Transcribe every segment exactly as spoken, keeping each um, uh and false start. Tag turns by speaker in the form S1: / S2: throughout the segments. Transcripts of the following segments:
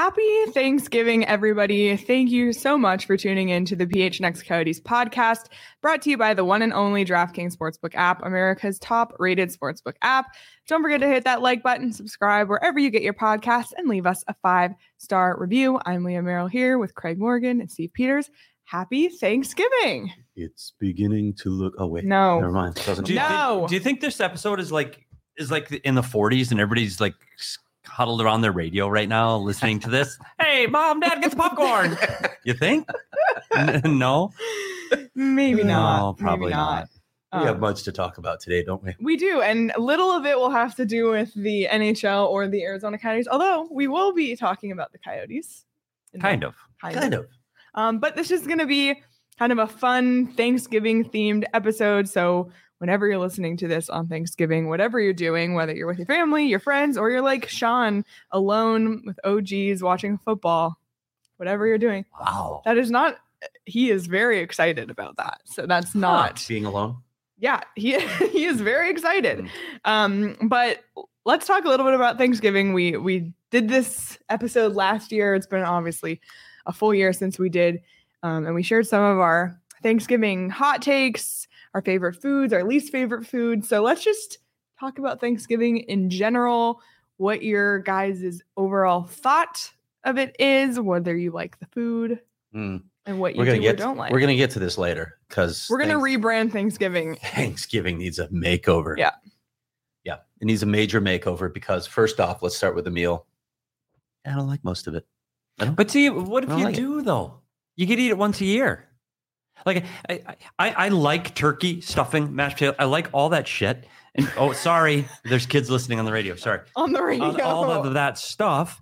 S1: Happy Thanksgiving, everybody. Thank you so much for tuning in to the P H N X Coyotes podcast, brought to you by the one and only DraftKings Sportsbook app, America's top-rated sportsbook app. Don't forget to hit that like button, subscribe wherever you get your podcasts, and leave us a five-star review. I'm Leah Merrill here with Craig Morgan and Steve Peters. Happy Thanksgiving.
S2: It's beginning to look... Oh, wait.
S1: No.
S2: Never mind. Doesn't
S3: Do you,
S1: No.
S3: think, do you think this episode is like is like in the forties and everybody's like huddled around their radio right now listening to this? Hey, Mom, Dad, get the popcorn. You think? N- no?
S1: Maybe not.
S3: No, probably
S1: Maybe
S3: not.
S2: We
S1: Um,
S2: have much to talk about today, don't we?
S1: We do, and little of it will have to do with the N H L or the Arizona Coyotes, although we will be talking about the Coyotes.
S3: Kind of.
S1: Kind,
S2: Kind
S1: of.
S2: of.
S1: Um, but this is going to be kind of a fun Thanksgiving-themed episode, so whenever you're listening to this on Thanksgiving, whatever you're doing, whether you're with your family, your friends, or you're like Sean, alone with O Gs watching football, whatever you're doing,
S3: Wow.
S1: that is not, he is very excited about that. So that's not,
S2: Being alone?
S1: yeah, he, he is very excited.
S2: Mm.
S1: Um, but let's talk a little bit about Thanksgiving. We, we did this episode last year. It's been obviously a full year since we did, um, and we shared some of our Thanksgiving hot takes, our favorite foods, our least favorite foods. So let's just talk about Thanksgiving in general, what your guys' overall thought of it is, whether you like the food
S2: Mm.
S1: and what you
S2: We're gonna
S1: do
S2: get
S1: or don't like.
S2: We're gonna get to this later because
S1: We're gonna rebrand Thanksgiving.
S2: Thanksgiving needs a makeover.
S1: Yeah.
S2: Yeah. It needs a major makeover because first off, let's start with the meal. I don't like most of it. I don't,
S3: But see, what if
S2: I
S3: you
S2: like it.
S3: do, though? You could eat it once a year. Like, I, I, I like turkey, stuffing, mashed potatoes. I like all that shit. And oh, sorry, there's kids listening on the radio. Sorry.
S1: On the radio.
S3: All, all of that stuff.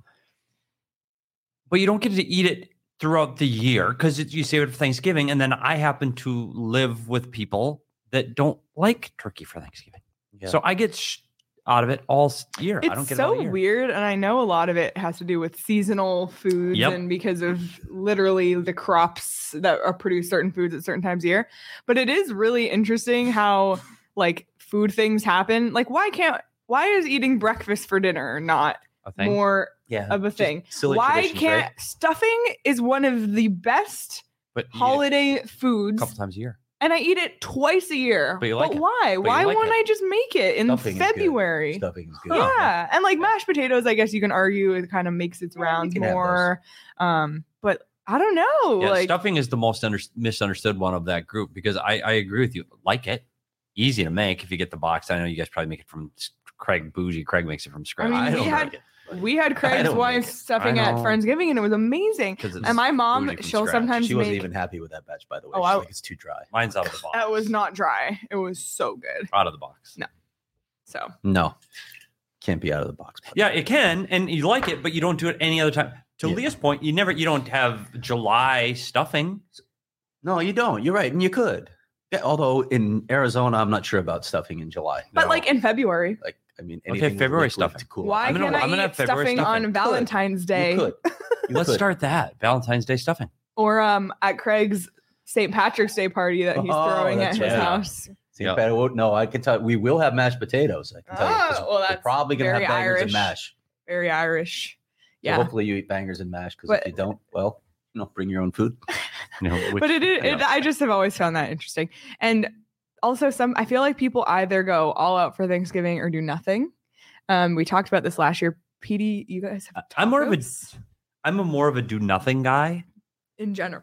S3: But you don't get to eat it throughout the year because you save it for Thanksgiving. And then I happen to live with people that don't like turkey for Thanksgiving.
S2: Yeah.
S3: So I get sh- out of it all s- year.
S1: It's
S3: I don't get it all
S1: so
S3: year.
S1: weird, and I know a lot of it has to do with seasonal foods
S3: Yep.
S1: and because of literally the crops that are produce certain foods at certain times of year. But it is really interesting how like food things happen. Like why can't why is eating breakfast for dinner not
S3: A thing?
S1: more
S2: yeah,
S1: of a
S2: just
S1: thing?
S2: silly
S1: Why
S2: traditions,
S1: can't
S2: right?
S1: stuffing is one of the best
S3: But you eat it
S1: holiday
S3: a
S1: foods,
S3: couple times a year.
S1: and I eat it twice a year.
S3: But you like it.
S1: why?
S3: you
S1: Why
S3: like
S1: won't
S3: it.
S1: I just make it in
S2: Stuffing is good.
S1: February?
S2: Stuffing is good.
S1: Yeah, and like mashed potatoes, I guess you can argue it kind of makes its
S2: Yeah, you
S1: rounds
S2: can have those.
S1: more. Um, but I don't know.
S3: Yeah,
S1: like
S3: stuffing is the most under- misunderstood one of that group because I, I agree with you. Like it, easy to make if you get the box. I know you guys probably make it from s- Craig Bougie. Craig makes it from scratch.
S1: mean,
S2: I
S1: we
S2: don't
S1: had-
S2: like it.
S1: we had Craig's
S2: don't
S1: wife
S2: make it.
S1: stuffing
S3: I
S1: at
S3: know.
S1: Friendsgiving, and it was amazing.
S3: 'Cause it's
S1: And my mom,
S3: bougie from
S1: she'll
S3: scratch.
S1: sometimes
S2: She wasn't
S1: make.
S2: even happy with that batch, by the way.
S1: Oh,
S2: She's
S1: I-
S2: like, it's too dry.
S3: Mine's out of the box.
S1: That was not dry. It was so good.
S3: Out of the box.
S1: No. So
S2: No, can't be out of the box. buddy.
S3: Yeah, it can, and you like it, but you don't do it any other time. To
S2: Yeah.
S3: Leah's point, you never, you don't have July stuffing.
S2: No, you don't. You're right, and you could. Yeah, although in Arizona, I'm not sure about stuffing in July.
S1: but
S3: No.
S1: like in February,
S2: Like, I mean,
S3: Okay,
S2: anything
S3: February
S2: liquid
S3: stuffing.
S2: to cool.
S1: why
S3: I'm gonna-
S1: can't
S3: I'm gonna
S1: I
S3: have
S1: eat
S3: February
S1: stuffing
S3: stuffing.
S1: on Valentine's Day
S2: You could. You
S3: Let's
S2: could.
S3: start that Valentine's Day stuffing.
S1: or um at Craig's Saint Patrick's Day party that he's
S2: Oh,
S1: throwing at
S2: that's
S1: his
S2: right.
S1: house?
S2: See,
S3: Yeah.
S2: but I won't- no, I can tell. We will have mashed potatoes. I can tell you. 'cause
S1: Oh, well,
S2: we're
S1: that's
S2: probably gonna have
S1: very
S2: bangers
S1: Irish.
S2: and mash.
S1: Very Irish.
S2: So
S1: Yeah.
S2: hopefully you eat bangers and mash. Because
S1: But-
S2: if you don't, well, you know, bring your own food.
S3: You know, which-
S1: but it, is, it
S3: yeah.
S1: I just have always found that interesting. And also some I feel like people either go all out for Thanksgiving or do nothing. Um, we talked about this last year. P D, you guys have
S3: I'm more of a-
S1: tacos
S3: I'm a more of a do nothing guy.
S1: in general.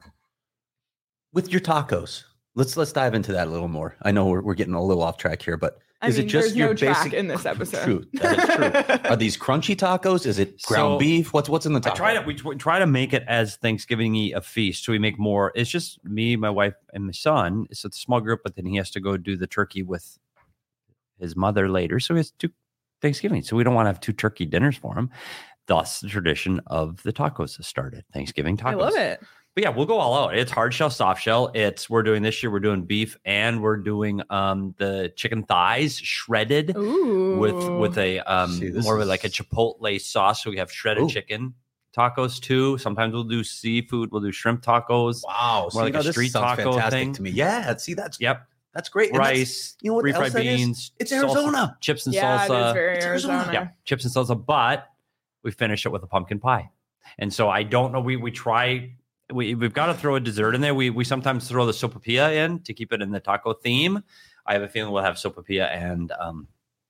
S2: With your tacos, let's let's dive into that a little more. I know we're, we're getting a little off track here, but
S1: I
S2: is
S1: mean,
S2: it just
S1: there's
S2: your
S1: no track
S2: basic
S1: in this episode.
S2: True, that is true. Are these crunchy tacos? Is it ground
S3: So,
S2: beef? What's what's in the
S3: I
S2: taco?
S3: try to we tr- try to make it as Thanksgiving-y a feast. So we make more. It's just me, my wife, and my son. So it's a small group, but then he has to go do the turkey with his mother later. So he has two Thanksgiving. So we don't want to have two turkey dinners for him. Thus, the tradition of the tacos has started. Thanksgiving tacos.
S1: I love it.
S3: But yeah, we'll go all out. It's hard shell, soft shell. It's we're doing this year. We're doing beef, and we're doing um the chicken thighs shredded
S1: Ooh.
S3: with with a um
S2: See, this
S3: more of
S2: is-
S3: like a chipotle sauce. So we have shredded
S2: Ooh.
S3: chicken tacos too. Sometimes we'll do seafood. We'll do shrimp tacos.
S2: Wow, so,
S3: More
S2: you
S3: like a
S2: know, this
S3: street
S2: sounds
S3: taco
S2: fantastic
S3: thing.
S2: to me. Yeah, see, that's
S3: Yep,
S2: that's great. And that's-
S3: rice,
S2: you know what
S3: refried
S2: else that is?
S3: beans.
S2: It's
S3: salsa-
S2: Arizona.
S3: chips and
S1: Yeah,
S3: salsa.
S1: it is very
S2: It's
S1: Arizona.
S2: Arizona.
S3: Yeah, chips and salsa. But we finish it with a pumpkin pie. And so I don't know. We we try. We we've got to throw a dessert in there. We we sometimes throw the sopapilla in to keep it in the taco theme. I have a feeling we'll have sopapilla and um.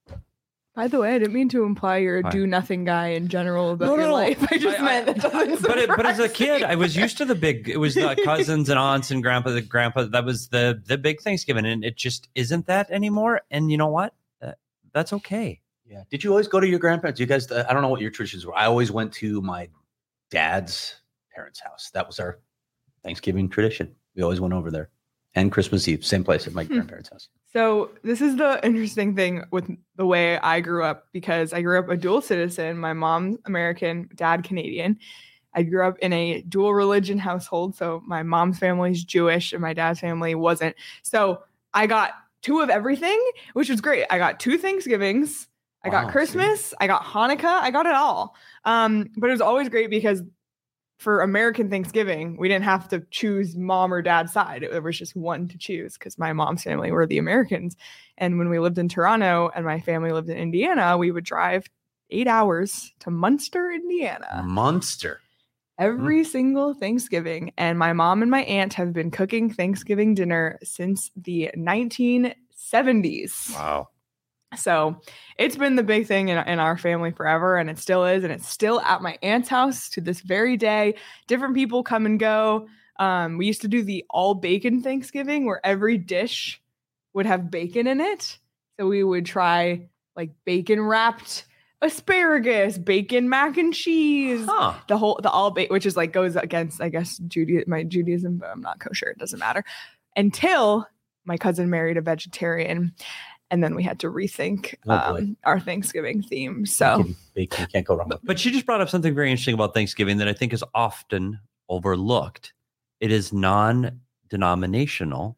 S1: By the way, I didn't mean to imply you're a
S3: Hi.
S1: do nothing guy in general about
S3: No,
S1: your
S3: no, no.
S1: life. I just
S3: I-
S1: meant
S3: I-
S1: that doesn't
S3: but it, but as a
S1: surprise
S3: kid,
S1: me.
S3: I was used to the big. It was the cousins and aunts and grandpa. The grandpa that was the the big Thanksgiving, and it just isn't that anymore. And you know what? Uh, that's okay.
S2: Yeah. Did you always go to your grandparents? You guys, I don't know what your traditions were. I always went to my dad's parents' house. That was our Thanksgiving tradition. We always went over there. And Christmas Eve, same place at my
S1: Hmm.
S2: grandparents' house.
S1: So this is the interesting thing with the way I grew up, because I grew up a dual citizen. My mom's American, dad Canadian. I grew up in a dual religion household. So my mom's family's Jewish and my dad's family wasn't. So I got two of everything, which was great. I got two Thanksgivings. I
S2: Wow,
S1: got
S2: see?
S1: Christmas. I got Hanukkah. I got it all. Um, but it was always great because for American Thanksgiving, we didn't have to choose mom or dad's side. There was just one to choose because my mom's family were the Americans. And when we lived in Toronto and my family lived in Indiana, we would drive eight hours to Munster, Indiana,
S2: Monster.
S1: every single Thanksgiving. And my mom and my aunt have been cooking Thanksgiving dinner since the nineteen seventies.
S3: Wow.
S1: So it's been the big thing in, in our family forever, and it still is. And it's still at my aunt's house to this very day. Different people come and go. Um, we used to do the all bacon Thanksgiving where every dish would have bacon in it. So we would try like bacon wrapped asparagus, bacon mac and cheese,
S3: Huh.
S1: the whole, the all bacon, which is like goes against, I guess, Judaism, my Judaism, but I'm not kosher. It doesn't matter. Until my cousin married a vegetarian. And then we had to rethink
S2: Oh, boy.
S1: um, our Thanksgiving theme. So
S2: Bacon, bacon, can't go wrong with
S3: But she just brought up something very interesting about Thanksgiving that I think is often overlooked. It is non-denominational.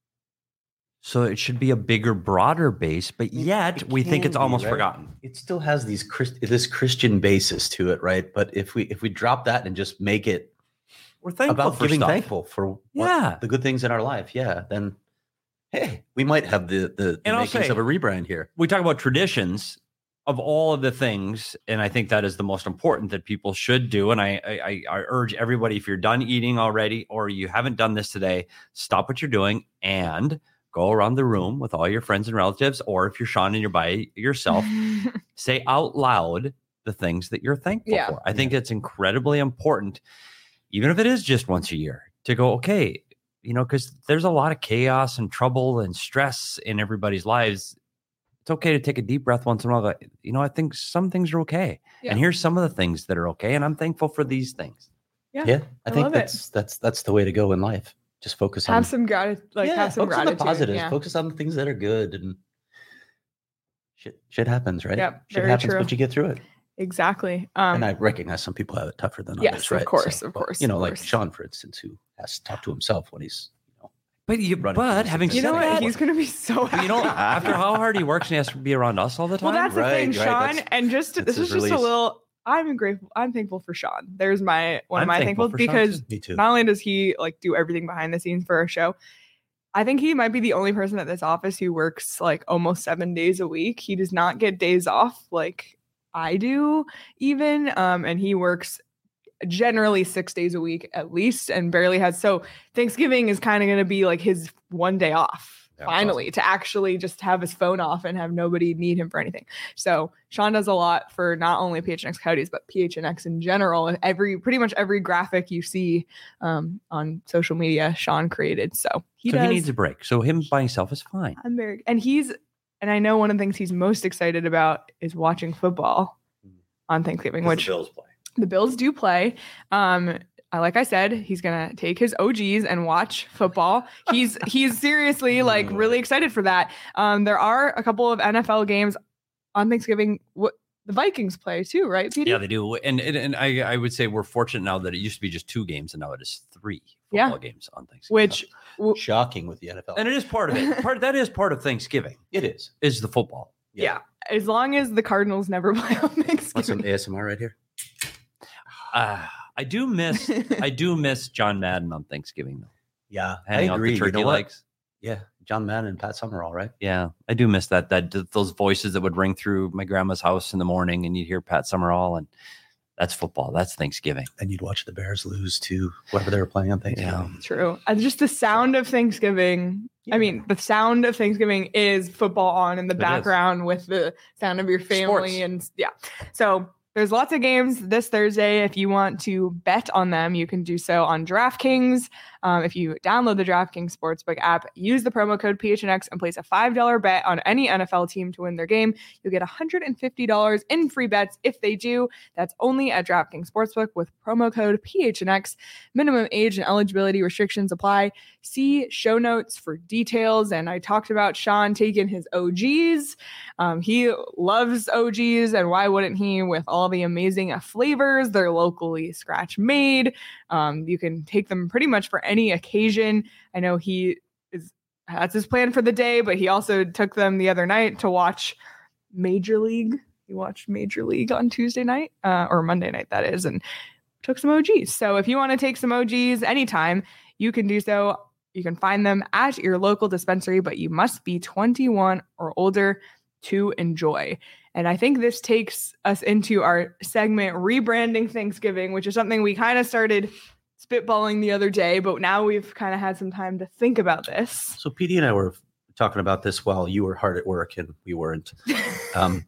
S3: So it should be a bigger, broader base, but yet
S2: It
S3: we think
S2: can
S3: it's
S2: be,
S3: almost
S2: right?
S3: forgotten.
S2: It still has these Christ, this Christian basis to it, right? But if we if we drop that and just make it
S3: We're thankful
S2: about
S3: for
S2: giving
S3: stuff.
S2: thankful for what,
S3: Yeah.
S2: the good things in our life, yeah, then hey, we might have the the, the
S3: And I'll
S2: makings
S3: say-
S2: of a rebrand here.
S3: We talk about traditions of all of the things, and I think that is the most important that people should do. And I, I, I urge everybody, if you're done eating already or you haven't done this today, stop what you're doing and go around the room with all your friends and relatives, or if you're Sean and you're by yourself, say out loud the things that you're thankful
S1: Yeah.
S3: for. I think it's incredibly important, even if it is just once a year, to go, okay, you know, because there's a lot of chaos and trouble and stress in everybody's lives. It's okay to take a deep breath once in a while. Like, you know, I think some things are okay.
S1: Yeah.
S3: And here's some of the things that are okay. And I'm thankful for these things.
S1: yeah,
S2: Yeah, I,
S1: I
S2: think
S1: love it.
S2: that's that's that's the way to go in life. Just focus on
S1: have some gratitude, like
S2: yeah,
S1: have some
S2: focus on
S1: gratitude.
S2: the positives.
S1: Yeah.
S2: Focus on the things that are good, and shit shit happens, right?
S1: Yep,
S2: shit
S1: very
S2: happens,
S1: true.
S2: but you get through it.
S1: Exactly. Um,
S2: and I recognize some people have it tougher than
S1: yes,
S2: others,
S1: of
S2: right?
S1: course, of
S2: but,
S1: course,
S2: You know,
S1: of
S2: like
S1: course.
S2: Sean, for instance, who has to talk to himself when he's, you know,
S3: But you,
S2: Running
S3: but
S2: through
S3: having
S2: these
S1: you
S3: said
S1: know
S2: things.
S1: what?
S3: that,
S1: He's gonna be so happy.
S3: you know, after how hard he works and he has to be around us all the time.
S1: well, that's the
S2: Right,
S1: thing,
S2: right,
S1: Sean.
S2: that's-
S1: And just
S2: that's
S1: this
S2: his
S1: is just a
S2: release.
S1: little. I'm grateful. I'm thankful for Sean. There's my one
S3: I'm
S1: of my
S3: thankful
S1: thankful
S3: for Sean,
S1: because
S3: too.
S2: me too.
S1: not only does he like do everything behind the scenes for our show, I think he might be the only person at this office who works like almost seven days a week. He does not get days off like I do, even. Um, and he works generally six days a week at least, and barely has. So Thanksgiving is kind of going to be like his one day off.
S2: Yeah,
S1: Finally, to actually just have his phone off and have nobody need him for anything. So Sean does a lot for not only P H N X Coyotes, but P H N X in general. Every pretty much every graphic you see um, on social media, Sean created. So he
S3: so
S1: does.
S3: he needs a break. So him by himself is fine.
S1: I'm very, and he's, and I know one of the things he's most excited about is watching football on Thanksgiving, which
S2: Bills play.
S1: the Bills do play. Um, I- like I said, he's gonna take his O Gs and watch football. He's he's seriously like really excited for that. Um, there are a couple of N F L games on Thanksgiving. What the Vikings play too, right, Petey?
S3: Yeah, they do. And and, and I, I would say we're fortunate now that it used to be just two games and now it is three
S1: Yeah.
S3: football games on Thanksgiving.
S1: Which w-
S2: Shocking with the N F L.
S3: and it is part of it. Part that is part of Thanksgiving
S2: it is.
S3: is the football.
S1: yeah. as long as the Cardinals never play on
S2: Want some
S1: Thanksgiving.
S2: A S M R right here?
S3: Uh, I do miss I do miss John Madden on Thanksgiving though.
S2: Yeah,
S3: Handing
S2: I
S3: out
S2: agree.
S3: the
S2: You
S3: turkey
S2: know what?
S3: legs.
S2: Yeah, John Madden and Pat Summerall, right?
S3: Yeah, I do miss that. That those voices that would ring through my grandma's house in the morning, and you'd hear Pat Summerall, and That's football. That's Thanksgiving.
S2: And you'd watch the Bears lose to whoever they were playing on Thanksgiving.
S3: Yeah.
S1: True. And just the sound of Thanksgiving. I mean, the sound of Thanksgiving is football on in the
S3: It
S1: background with the sound of your family.
S3: Sports.
S1: And yeah. So there's lots of games this Thursday. If you want to bet on them, you can do so on DraftKings. Um, if you download the DraftKings Sportsbook app, use the promo code P H N X and place a five dollars bet on any N F L team to win their game. You'll get one hundred fifty dollars in free bets if they do. That's only at DraftKings Sportsbook with promo code P H N X. Minimum age and eligibility restrictions apply. See show notes for details. And I talked about Sean taking his O Gs. Um, he loves O Gs, and why wouldn't he, with all the amazing flavors? They're locally scratch made. Um, you can take them pretty much for any occasion. I know he is that's his plan for the day, but he also took them the other night to watch Major League. He watched Major League on Tuesday night, uh, or Monday night, that is, and took some O Gs. So if you want to take some O Gs anytime, you can do so. You can find them at your local dispensary, but you must be twenty-one or older to enjoy. And I think this takes us into our segment, Rebranding Thanksgiving, which is something we kind of started spitballing the other day, but now we've kind of had some time to think about this.
S2: So P D and I were talking about this while you were hard at work and we weren't. Um,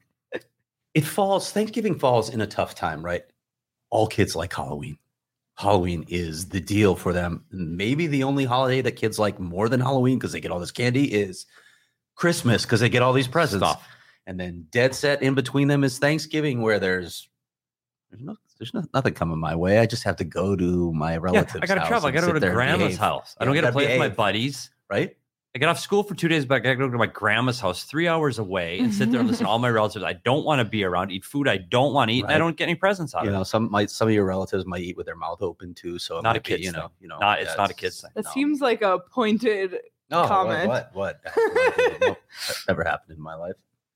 S2: it falls, Thanksgiving falls in a tough time, right? All kids like Halloween. Halloween is the deal for them. Maybe the only holiday that kids like more than Halloween because they get all this candy is Christmas because they get all these presents.
S3: Stuff.
S2: And then dead set in between them is Thanksgiving, where there's there's no there's no, nothing coming my way. I just have to go to my relatives.
S3: Yeah, I got to travel. I got to go to grandma's house. I don't
S2: Yeah,
S3: get to play
S2: behave.
S3: with my buddies.
S2: Right?
S3: I get off school for two days, but I got to go to my grandma's house three hours away and sit there and listen to all my relatives I don't want to be around, eat food I don't want to eat, and I
S2: Right.
S3: don't get any presents out
S2: You
S3: of
S2: know,
S3: it.
S2: some might some of your relatives might eat with their mouth open too. So it
S3: Not a
S2: might be,
S3: kid's
S2: you know,
S3: thing.
S2: you know,
S3: Not- it's
S2: yeah,
S3: not a kid's thing.
S1: That
S2: no.
S1: seems like a pointed
S2: No,
S1: comment.
S2: What? What? what? Nope, that never happened in my life.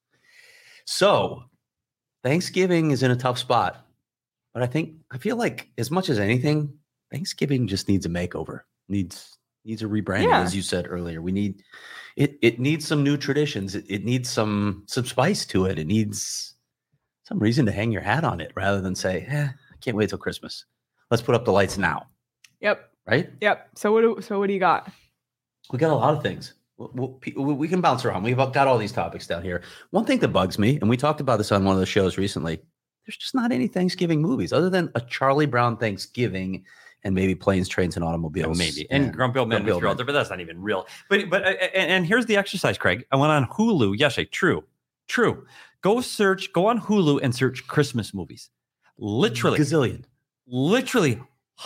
S2: So, Thanksgiving is in a tough spot, but I think I feel like as much as anything, Thanksgiving just needs a makeover. Needs needs a rebranding,
S1: Yeah.
S2: as you said earlier. We need it. It needs some new traditions. It, it needs some some spice to it. It needs some reason to hang your hat on it, rather than say, "Eh, I can't wait till Christmas. Let's put up the lights now."
S1: Yep.
S2: Right?
S1: Yep. So what do, so what do you got?
S2: We got a lot of things. We'll, we'll, we can bounce around. We've got all these topics down here. One thing that bugs me, and we talked about this on one of the shows recently, there's just not any Thanksgiving movies other than a Charlie Brown Thanksgiving and maybe Planes, Trains, and
S3: Yeah,
S2: Automobiles.
S3: maybe. And Grumpy Old Man
S2: Grumpy
S3: with
S2: Old
S3: your
S2: Man.
S3: altar, but that's not even real. But but uh, and, and here's the exercise, Craig. I went on Hulu yesterday. True, true. Go search. Go on Hulu and search Christmas movies. Literally,
S2: Gazillion.
S3: literally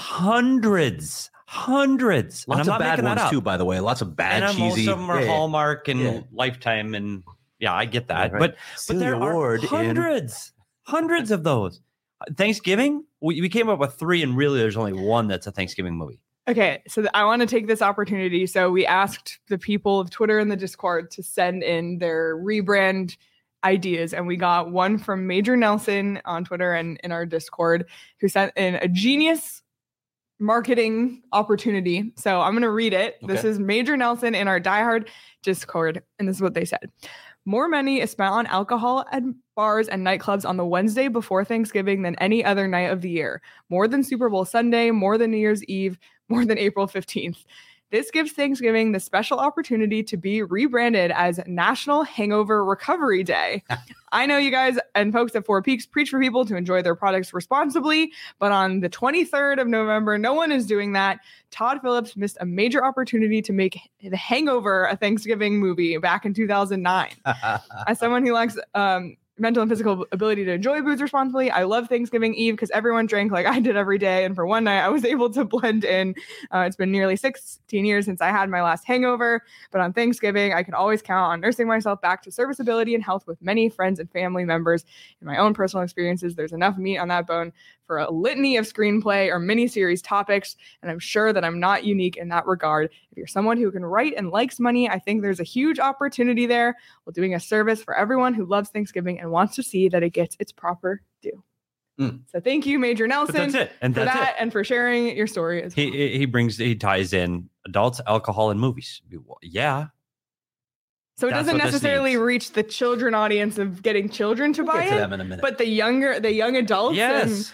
S3: hundreds, hundreds. And
S2: Lots
S3: I'm
S2: of
S3: not
S2: bad
S3: making that
S2: ones
S3: up.
S2: too, by the way. Lots of bad,
S3: and uh, most
S2: cheesy.
S3: of them are
S2: Yeah, yeah.
S3: Hallmark and
S2: Yeah.
S3: Lifetime, and yeah, I get that.
S2: Right.
S3: But but
S2: Celia
S3: there
S2: Ward
S3: are
S2: in-
S3: hundreds, hundreds of those. Thanksgiving, we, we came up with three, and really, there's only one that's a Thanksgiving movie.
S1: Okay, so th- I want to take this opportunity. So we asked the people of Twitter and the Discord to send in their rebrand ideas, and we got one from Major Nelson on Twitter and in our Discord, who sent in a genius marketing opportunity. So I'm going to read it. This
S2: Okay.
S1: is Major Nelson in our diehard Discord, and this is what they said. More money is spent on alcohol at bars and nightclubs on the Wednesday before Thanksgiving than any other night of the year. More than Super Bowl Sunday, more than New Year's Eve, more than April fifteenth. This gives Thanksgiving the special opportunity to be rebranded as National Hangover Recovery Day. I know you guys and folks at Four Peaks preach for people to enjoy their products responsibly, but on the twenty-third of November, no one is doing that. Todd Phillips missed a major opportunity to make The Hangover a Thanksgiving movie back in two thousand nine. As someone who lacks um, mental and physical ability to enjoy booze responsibly, I love Thanksgiving Eve because everyone drank like I did every day. And for one night, I was able to blend in. Uh, it's been nearly sixteen years since I had my last hangover. But on Thanksgiving, I can always count on nursing myself back to serviceability and health with many friends and family members. In my own personal experiences, there's enough meat on that bone for a litany of screenplay or miniseries topics. And I'm sure that I'm not unique in that regard. If you're someone who can write and likes money, I think there's a huge opportunity there while doing a service for everyone who loves Thanksgiving and wants to see that it gets its proper due.
S2: Mm.
S1: So thank you, Major
S3: But
S1: Nelson,
S3: that's it. And
S1: for
S3: that's
S1: that
S3: it.
S1: and for sharing your story as well.
S3: He he brings he ties in adults, alcohol, and movies. Yeah,
S1: So it
S3: that's
S1: doesn't
S3: what this
S1: necessarily
S3: needs.
S1: reach the children audience of getting children to
S2: We'll
S1: buy
S2: get to
S1: it,
S2: them in a minute.
S1: but the younger, the young adults.
S3: yes.
S1: And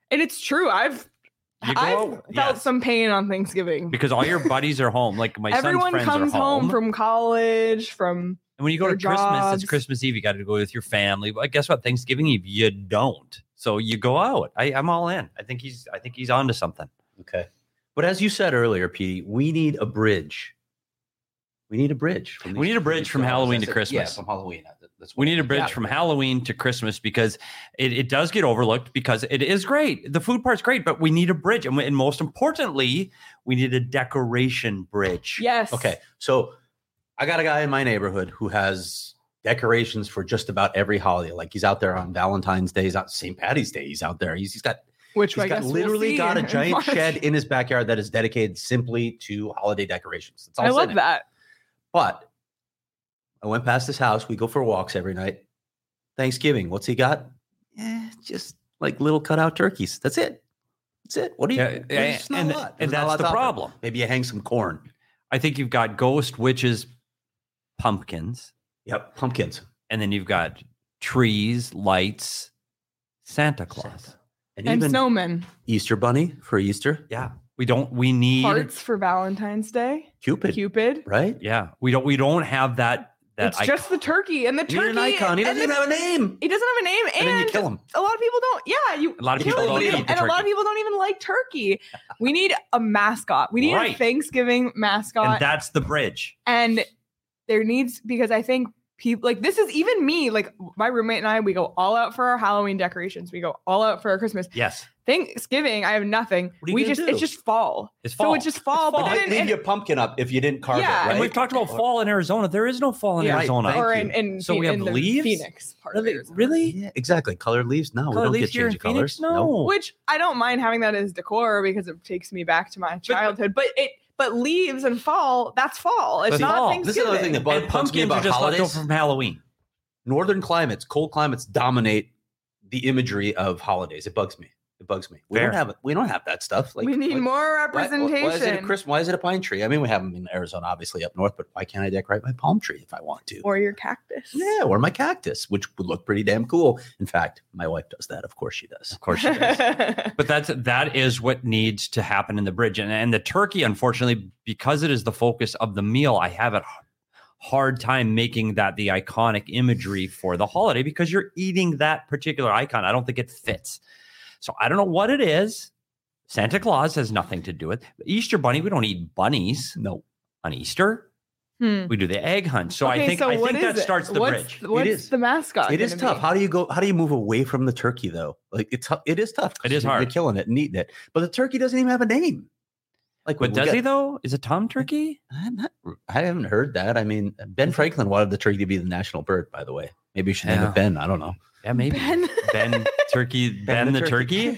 S1: And it's true. I've
S3: You go
S1: I've
S3: out-
S1: felt
S3: yes.
S1: some pain on Thanksgiving.
S3: because all your buddies are home. Like my
S1: Everyone
S3: son's friends
S1: comes
S3: are home.
S1: home from college, from
S3: and when you go to
S1: their
S3: Christmas,
S1: jobs.
S3: it's Christmas Eve. You got to go with your family. But guess what? Thanksgiving Eve, you don't. So you go out. I, I'm all in. I think he's. I think he's on to something.
S2: Okay. But as you said earlier, Petey, we need a bridge. We need a bridge. From
S3: We need a bridge
S2: these
S3: from
S2: dollars.
S3: Halloween
S2: That's
S3: to
S2: it.
S3: Christmas.
S2: Yeah, from Halloween. That's
S3: We
S2: what-
S3: need a bridge
S2: yeah.
S3: from Halloween to Christmas because it, it does get overlooked because it is great. The food part's great, but we need a bridge. And, we- and most importantly, we need a decoration bridge.
S1: yes.
S2: Okay. So I got a guy in my neighborhood who has decorations for just about every holiday. Like he's out there on Valentine's Day, he's out Saint Patty's Day. He's out there. He's, he's got
S1: Which
S2: he's
S1: I
S2: got
S1: guess
S2: literally
S1: we'll see
S2: got a
S1: in
S2: giant
S1: March.
S2: shed in his backyard that is dedicated simply to holiday decorations. That's all
S1: I
S2: it's
S1: love
S2: in it.
S1: that.
S2: But I went past his house. We go for walks every night. Thanksgiving, what's he got? Eh, just like little cutout turkeys. That's it. That's it. What do you?
S3: Yeah,
S2: there's just not
S3: and-
S2: a lot.
S3: and
S2: There's not a
S3: that's
S2: lot
S3: the
S2: out there.
S3: problem.
S2: Maybe you hang some corn.
S3: I think you've got ghost witches, pumpkins,
S2: Yep, pumpkins.
S3: and then you've got trees, lights, Santa Claus.
S2: And,
S1: And
S2: even
S1: snowmen.
S2: Easter bunny for Easter.
S3: Yeah. We don't we need
S1: Hearts for Valentine's Day.
S2: Cupid,
S1: Cupid.
S2: right?
S3: yeah. We don't we don't have that that
S1: It's just the turkey and the
S2: You need
S1: turkey.
S2: an icon. He
S1: and
S2: doesn't even
S1: the-
S2: have a name.
S1: He doesn't have a name,
S2: And,
S1: and,
S2: then you kill him.
S1: a lot of people don't. Yeah, you.
S3: A lot of
S1: kill
S3: people
S1: it,
S2: don't
S1: and
S2: eat the
S1: a lot
S3: turkey.
S1: of people don't even like turkey. We need a mascot. We need
S3: Right.
S1: a Thanksgiving mascot,
S3: and that's the bridge.
S1: and there needs because I think people like this is even me. Like my roommate and I, we go all out for our Halloween decorations. We go all out for our Christmas.
S3: Yes.
S1: Thanksgiving, I have nothing.
S2: What are you
S1: We
S2: gonna
S1: just
S2: do?
S1: it's just fall.
S3: It's
S1: So
S3: fall.
S1: it's just fall.
S3: It's
S1: But
S3: fall.
S1: then,
S2: Leave
S1: and-
S2: your pumpkin up if you didn't carve
S1: Yeah,
S2: it, right?
S3: And we've talked about fall in Arizona. There is no fall in
S2: Yeah,
S3: Arizona.
S2: thank
S1: or
S2: you.
S1: in, in
S3: So we
S1: in
S3: have
S1: the
S3: leaves?
S1: Phoenix part
S3: Are
S1: of
S3: they-
S1: Arizona.
S3: really?
S2: Yeah, exactly. Colored leaves. No,
S3: Colored
S2: we don't
S3: leaves
S2: get
S3: here in
S2: change of
S3: Phoenix?
S2: colors.
S3: No.
S1: Which I don't mind having that as decor because it takes me back to my childhood. But it but leaves and fall, that's fall. It's
S3: That's
S1: not
S3: fall.
S1: Thanksgiving.
S2: This is another thing that bugs
S3: And
S2: me
S3: pumpkins
S2: about
S3: are just left
S2: holidays.
S3: over from Halloween.
S2: Northern climates, cold climates dominate the imagery of holidays. It bugs me. It bugs me. We
S3: Fair.
S2: don't have we don't have that stuff. Like
S1: we need
S2: like,
S1: more
S2: why-
S1: representation.
S2: Why, why is it a Christmas? Why is it a pine tree? I mean, we have them in Arizona, obviously up north, but why can't I decorate my palm tree if I want to?
S1: or your cactus.
S2: Yeah, or my cactus, which would look pretty damn cool. In fact, my wife does that. Of course, she does.
S3: Of course she does. But that's that is what needs to happen in the bridge. And and the turkey, unfortunately, because it is the focus of the meal, I have a hard time making that the iconic imagery for the holiday because you're eating that particular icon. I don't think it fits. So I don't know what it is. Santa Claus has nothing to do with it. Easter bunny. We don't eat bunnies
S2: No,
S3: on Easter.
S1: Hmm.
S3: We do the egg hunt. So I
S1: Okay,
S3: think
S1: so
S3: I
S1: what
S3: think
S1: is
S3: that
S1: it?
S3: starts the
S1: what's,
S3: bridge.
S1: What's
S2: is.
S1: the mascot?
S2: it is
S1: gonna
S2: tough.
S1: be?
S2: How do you go? How do you move away from the turkey though? Like it's tou- it is tough. 'cause
S3: It is
S2: you're-
S3: hard.
S2: You're killing it and eating it, but the turkey doesn't even have a name. Like,
S3: But
S2: we
S3: does
S2: get-
S3: he though? Is it Tom Turkey?
S2: I'm not, I haven't heard that. I mean, Ben Franklin wanted the turkey to be the national bird. By the way, maybe you should name
S3: Yeah.
S2: it Ben. I don't know.
S3: Yeah, maybe.
S1: Ben.
S3: Ben Turkey. Ben,
S2: Ben
S3: the,
S2: the
S3: turkey.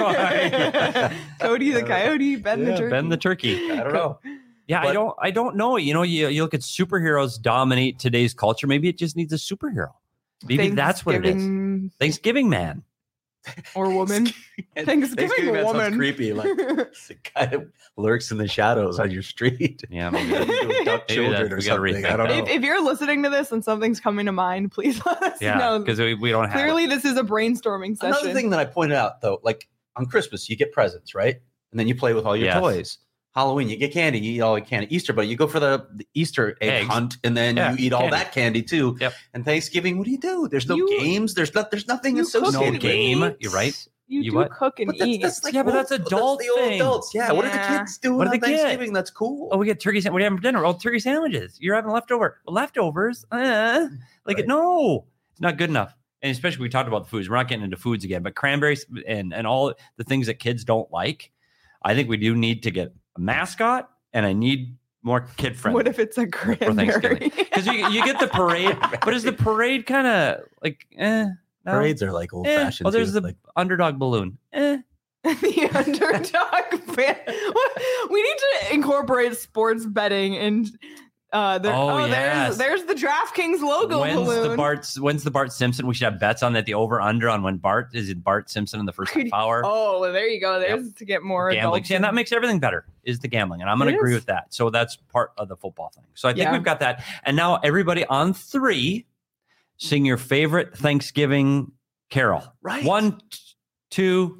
S1: Cody the coyote, Ben the
S2: Yeah,
S1: turkey.
S3: Ben the turkey.
S2: I don't know.
S3: Yeah, I
S2: But-
S3: don't. I don't know. You know, you, you look at superheroes dominate today's culture. Maybe it just needs a superhero. Maybe that's what it is.
S1: Thanksgiving
S3: Thanksgiving man.
S1: or woman. Thanksgiving
S2: man sounds
S1: woman.
S2: creepy. Like it's the guy that lurks in the shadows on your street.
S3: Yeah, maybe.
S2: Duck
S3: Maybe that-
S2: children or
S3: we gotta
S2: something.
S3: rethink
S2: I don't
S3: that.
S2: know.
S1: if, if you're listening to this and something's coming to mind, please let us
S3: Yeah,
S1: know.
S3: because we, we don't have.
S1: Clearly,
S3: it.
S1: this is a brainstorming session.
S2: Another thing that I pointed out though, like on Christmas, you get presents, right? And then you play with all your
S3: Yes.
S2: toys. Halloween, you get candy, you eat all the candy. Easter, but you go for the, the Easter egg
S3: Eggs.
S2: hunt, and then
S3: Yeah,
S2: you eat all
S3: candy.
S2: that candy too.
S3: Yep.
S2: And Thanksgiving, what do you do? There's no
S1: You-
S2: games. There's not. There's nothing
S1: you
S2: associated.
S1: cook
S3: No
S1: and
S2: with it.
S3: game.
S1: eat.
S3: You're right.
S1: You,
S3: You
S1: do
S3: what?
S1: cook and
S2: But that's,
S1: eat.
S2: that's like
S3: Yeah, but
S2: old-
S3: that's adult
S2: the old
S3: thing.
S2: adults. Yeah. What are the
S1: Yeah.
S2: kids doing
S3: What do
S2: on
S3: they get?
S2: Thanksgiving? That's cool.
S3: Oh, we get turkey. Sa- what do you have for dinner? Oh, turkey sandwiches. You're having leftover leftovers. Uh, like
S2: Right.
S3: no, it's not good enough. And especially we talked about the foods. We're not getting into foods again, but cranberries and and all the things that kids don't like. I think we do need to get a mascot, and I need more kid friendly.
S1: What if it's a cranberry?
S3: Thanksgiving. Because you, you get the parade, but is the parade kind of like eh? No?
S2: Parades are like old
S3: Eh.
S2: fashioned.
S3: Oh, there's the
S2: like,
S3: underdog balloon. Eh.
S1: the underdog fan. We need to incorporate sports betting and uh there,
S3: Oh,
S1: oh,
S3: yes.
S1: there's there's the DraftKings logo
S3: When's
S1: balloon.
S3: the Bart? When's the Bart Simpson? We should have bets on that. The over under on when Bart is it Bart Simpson in the first half hour.
S1: Oh, well, there you go. There's to get more
S3: Gambling.
S1: adults
S3: See, and that
S1: in.
S3: makes everything better. Is the gambling, and I'm going
S1: It
S3: to agree
S1: is.
S3: with that. So that's part of the football thing. So I think
S1: Yeah.
S3: we've got that. And now everybody on three, sing your favorite Thanksgiving carol.
S2: right.
S3: One, t- two,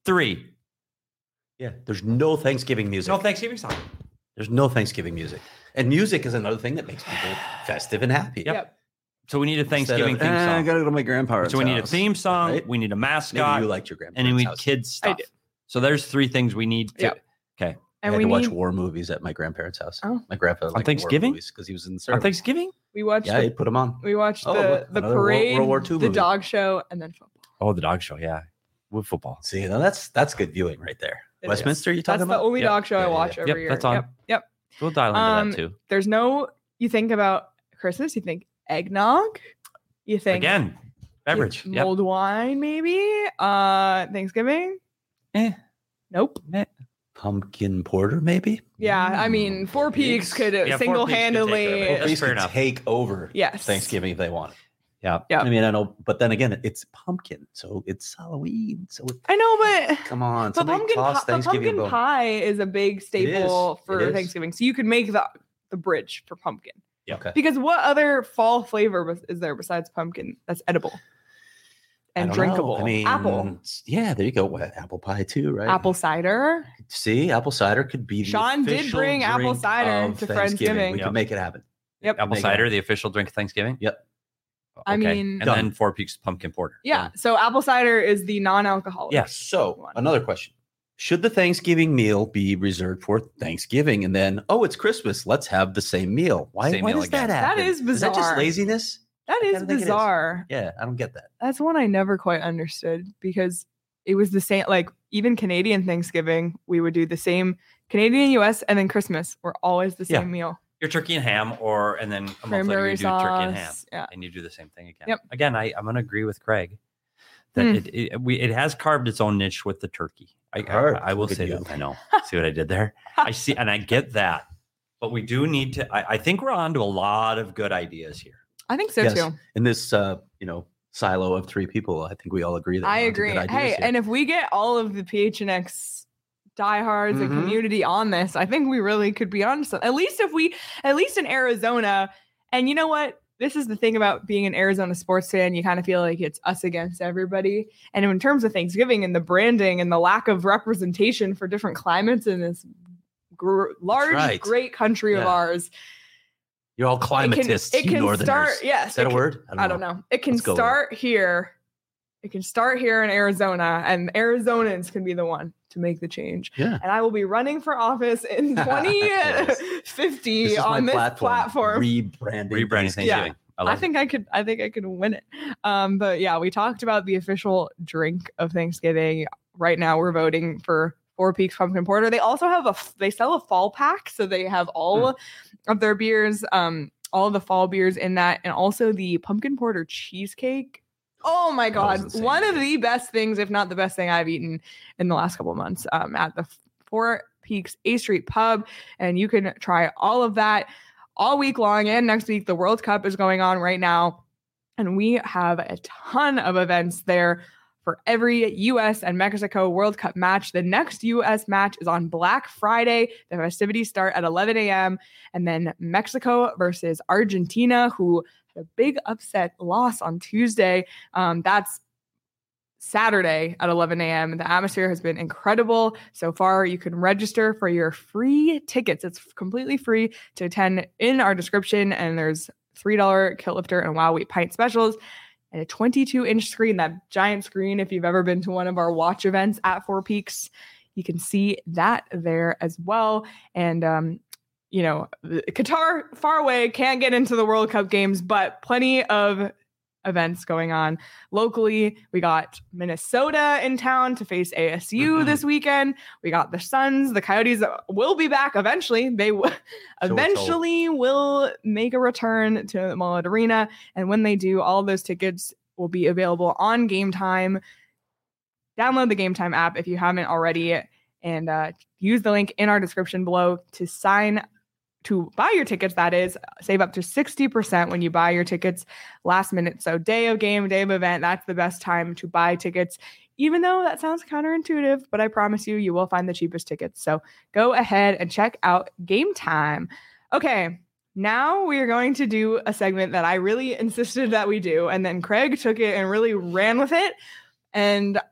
S3: Three.
S2: Yeah, there's no Thanksgiving music.
S3: No Thanksgiving song.
S2: There's no Thanksgiving music. And music is another thing that makes people festive and happy.
S3: Yep.
S1: Yep.
S3: So we need a Thanksgiving
S2: Of,
S3: theme
S2: "Eh,
S3: song.
S2: I gotta go to my grandparents'
S3: So we need a
S2: house,"
S3: theme song.
S2: right?
S3: We need a
S2: Maybe
S3: mascot.
S2: you liked your grandparents'
S3: and then we need
S2: house.
S3: kids
S1: I
S3: stuff.
S1: do.
S3: So there's three things we need to.
S1: Yep.
S3: Okay.
S2: I
S1: And
S2: had
S1: we
S2: to watch
S1: need,
S2: war movies at my grandparents' house.
S1: Oh.
S2: My grandfather liked
S3: Thanksgiving?
S2: war movies because he was in the
S3: On
S2: service.
S3: Thanksgiving?
S1: we watched
S2: Yeah, he
S1: the,
S2: put them on.
S1: we watched
S2: Oh,
S1: the,
S2: look,
S1: the
S2: another World-
S1: parade,
S2: World War Two
S1: the
S2: movie.
S1: dog show, and then football.
S3: Oh, the dog show. Yeah. With football.
S2: See, now that's that's good viewing right there.
S1: It
S2: Westminster, you
S1: That's
S2: talking
S1: the
S2: about?
S1: only
S3: Yep.
S1: dog show
S2: Yeah,
S1: I
S2: yeah,
S1: watch
S2: yeah.
S1: every
S3: Yep,
S1: year.
S3: that's on.
S1: Yep. Yep.
S3: We'll dial into
S1: Um,
S3: that too.
S1: There's no, you think about Christmas, you think eggnog, you think
S3: Again, beverage. Yep.
S1: mulled wine, maybe. Uh, Thanksgiving,
S3: Eh.
S1: nope.
S2: Pumpkin porter, maybe?
S1: Yeah, I mean, Four Peaks could
S3: Yeah, Four Peaks could
S1: single-handedly.
S3: take care of it.
S2: Well,
S3: That's
S2: these
S3: fair
S2: could
S3: enough.
S2: take over
S1: Yes.
S2: Thanksgiving if they want.
S3: Yeah.
S1: Yeah.
S2: I mean, I know, but then again, it's pumpkin, so it's Halloween. So it,
S1: I know, but
S2: come on,
S1: but
S2: somebody
S1: pumpkin,
S2: toss
S1: pi- but
S2: Thanksgiving
S1: pumpkin
S2: bone.
S1: pie is a big staple
S2: It
S1: for
S2: is.
S1: Thanksgiving. So you could make the the bridge for pumpkin.
S2: Okay.
S1: Because what other fall flavor bes- is there besides pumpkin that's edible
S2: I
S1: and
S2: don't know.
S1: drinkable?
S2: I mean,
S1: apple,
S2: Yeah, there you go. What, apple pie too, right?
S1: apple cider.
S2: See, apple cider could be. The
S1: Sean did
S2: official
S1: bring apple
S2: drink
S1: cider
S2: of
S1: to
S2: Thanksgiving.
S1: Friendsgiving.
S2: We
S3: Yep.
S2: can make it happen.
S1: Yep.
S3: Apple
S2: Make it
S3: cider,
S2: happen.
S3: the official drink of Thanksgiving.
S2: Yep.
S1: I
S3: Okay.
S1: mean-
S3: and
S2: Done.
S3: then Four Peaks pumpkin porter.
S1: Yeah. So apple cider is the non-alcoholic.
S3: Yeah.
S2: So
S1: One.
S2: another question: should the Thanksgiving meal be reserved for Thanksgiving, and then oh, it's Christmas, let's have the same meal? Why,
S3: Same
S2: why
S3: meal
S2: does
S3: again.
S2: that
S1: That
S2: happen?
S1: is
S2: Is that just
S1: bizarre.
S2: laziness?
S1: That
S2: I
S1: is
S2: kinda think it is.
S1: bizarre.
S2: Yeah, I don't get that.
S1: That's one I never quite understood because it was the same. Like even Canadian Thanksgiving, we would do the same. Canadian, U S, and then Christmas were always the
S3: Yeah.
S1: same meal.
S3: Your turkey and ham, or and then a month later
S1: Cranberry
S3: you do turkey and ham,
S1: sauce. Yeah.
S3: and you do the same thing again.
S1: Yep.
S3: Again, I, I'm going to agree with Craig that
S1: Hmm.
S3: it, it we it has carved its own niche with the turkey. I I,
S2: Carved.
S3: I will
S2: Look at
S3: say
S2: you.
S3: that. I know. See what I did there? I see, and I get that, but we do need to. I, I think we're on to a lot of good ideas here.
S1: I think so
S2: Yes.
S1: too.
S2: In this, uh, you know, silo of three people, I think we all agree that
S1: I
S2: we're onto
S1: agree.
S2: good ideas
S1: Hey,
S2: here.
S1: and if we get all of the P H N X diehards and
S2: Mhm.
S1: community on this, I think we really could be on something. At least if we, at least in Arizona, and you know what? This is the thing about being an Arizona sports fan. You kind of feel like it's us against everybody. And in terms of Thanksgiving and the branding and the lack of representation for different climates in this gr- large,
S2: right.
S1: great country of
S2: Yeah.
S1: ours,
S2: You're all
S1: it can,
S2: climatists,
S1: it
S2: you
S1: can
S2: northerners.
S1: start. Yes,
S2: Is that
S1: it
S2: a
S1: can-
S2: word?
S1: I don't know. It can
S2: Let's go with it.
S1: start here. It can start here in Arizona, and Arizonans can be the one to make the change.
S2: Yeah.
S1: And I will be running for office in twenty fifty
S2: This is
S1: on
S2: my
S1: this
S2: platform.
S1: platform.
S2: Rebranding.
S3: Rebranding
S2: Thanksgiving.
S3: Thanksgiving. I
S1: I
S3: love
S1: think I could. I think I could win it. Um, but yeah, we talked about the official drink of Thanksgiving. Right now, we're voting for Four Peaks Pumpkin Porter. They also have a. f- They sell a fall pack, so they have all
S2: Hmm.
S1: of their beers, um, all of the fall beers in that, and also the pumpkin porter cheesecake. Oh my
S2: That was
S1: god,
S2: insane.
S1: one of the best things, if not the best thing I've eaten in the last couple of months. Um, at the Four Peaks A Street Pub, and you can try all of that all week long and next week. The World Cup is going on right now, and we have a ton of events there for every U S and Mexico World Cup match. The next U S match is on Black Friday. The festivities start at eleven a.m. And then Mexico versus Argentina, who had a big upset loss on Tuesday. Um, that's Saturday at eleven a.m. The atmosphere has been incredible so far. You can register for your free tickets. It's completely free to attend in our description, and there's three dollars Kilt Lifter and Wow Wheat pint specials and a twenty-two inch screen, that giant screen. If you've ever been to one of our watch events at Four Peaks, you can see that there as well. And, um, you know, Qatar, far away, can't get into the World Cup games, but plenty of events going on locally. We got Minnesota in town to face A S U
S2: Mhm.
S1: this weekend. We got the Suns. The Coyotes will be back eventually. They will
S2: So we're told.
S1: eventually will make a return to Mullet Arena. And when they do, all of those tickets will be available on Game Time. Download the Game Time app if you haven't already, and uh, use the link in our description below to sign to buy your tickets. That is, save up to sixty percent when you buy your tickets last minute. So day of game, day of event, that's the best time to buy tickets, even though that sounds counterintuitive, but I promise you, you will find the cheapest tickets. So go ahead and check out Game Time. Okay, now we are going to do a segment that I really insisted that we do, and then Craig took it and really ran with it. And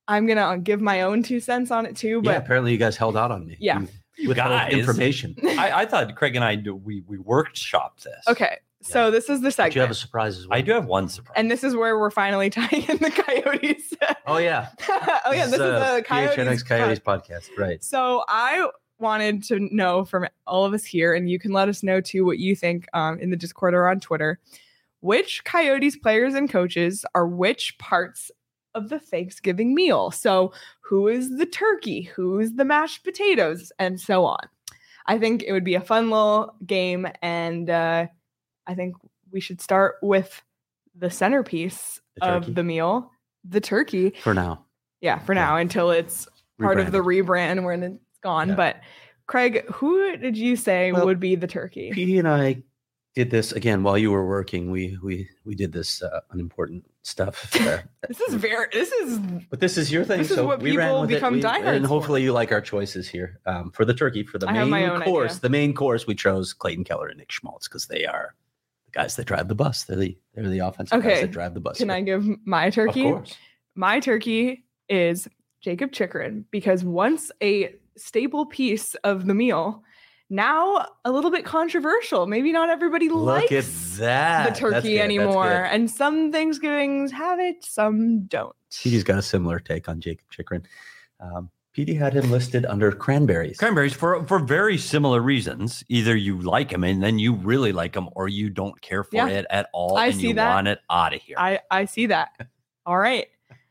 S1: I'm gonna give my own two cents on it too. But
S2: yeah, apparently you guys held out on me.
S1: Yeah.
S2: You,
S3: You
S2: withheld
S3: guys.
S2: information.
S3: I, I thought Craig and I do, we we workshopped this.
S1: okay, so this is the
S2: But
S1: segment,
S2: you have a surprise as well.
S3: I do have one surprise.
S1: and this is where we're finally tying in the Coyotes.
S2: Oh yeah.
S1: oh yeah, this is
S2: uh,
S1: the Coyotes.
S2: P H N X Coyotes podcast. Right.
S1: So I wanted to know from all of us here, and you can let us know too what you think um, in the Discord or on Twitter, which Coyotes players and coaches are which parts of the Thanksgiving meal. So who is the turkey? Who is the mashed potatoes? And so on. I think it would be a fun little game, and uh, I think we should start with the centerpiece
S2: The turkey.
S1: of the meal, the turkey.
S2: For now.
S1: Yeah, for now, until it's part of the rebrand when it's gone.
S2: Yeah.
S1: But Craig, who did you say
S2: Well,
S1: would be the turkey?
S2: Petey and I did this again while you were working. We we we did this uh, unimportant stuff. Uh,
S1: This is very. This is
S2: but this is your thing.
S1: This is
S2: so
S1: what
S2: we ran
S1: people
S2: with
S1: become
S2: it. We,
S1: diehards
S2: and hopefully
S1: for.
S2: you like our choices here. Um, for the turkey, for the
S1: I have my
S2: main
S1: own
S2: course,
S1: idea.
S2: the main course, we chose Clayton Keller and Nick Schmaltz because they are the guys that drive the bus. They're the they're the offensive
S1: Okay.
S2: guys that drive the bus.
S1: Can
S2: here.
S1: I give my
S2: Of
S1: turkey?
S2: course.
S1: My turkey is Jacob Chikrin, because once a staple piece of the meal, now a little bit controversial. Maybe not everybody
S2: Look at
S1: likes
S2: that.
S1: the
S2: That's
S1: turkey
S2: good. That's
S1: anymore,
S2: good.
S1: and some Thanksgivings have it, some don't.
S2: Petey's got a similar take on Jacob Chikrin. Um, Petey had him listed under cranberries.
S3: Cranberries for for very similar reasons. Either you like them and then you really like them, or you don't care for
S1: Yeah.
S3: it at all
S1: I
S3: and
S1: see
S3: you
S1: that.
S3: want it out of here.
S1: I I see that. All right,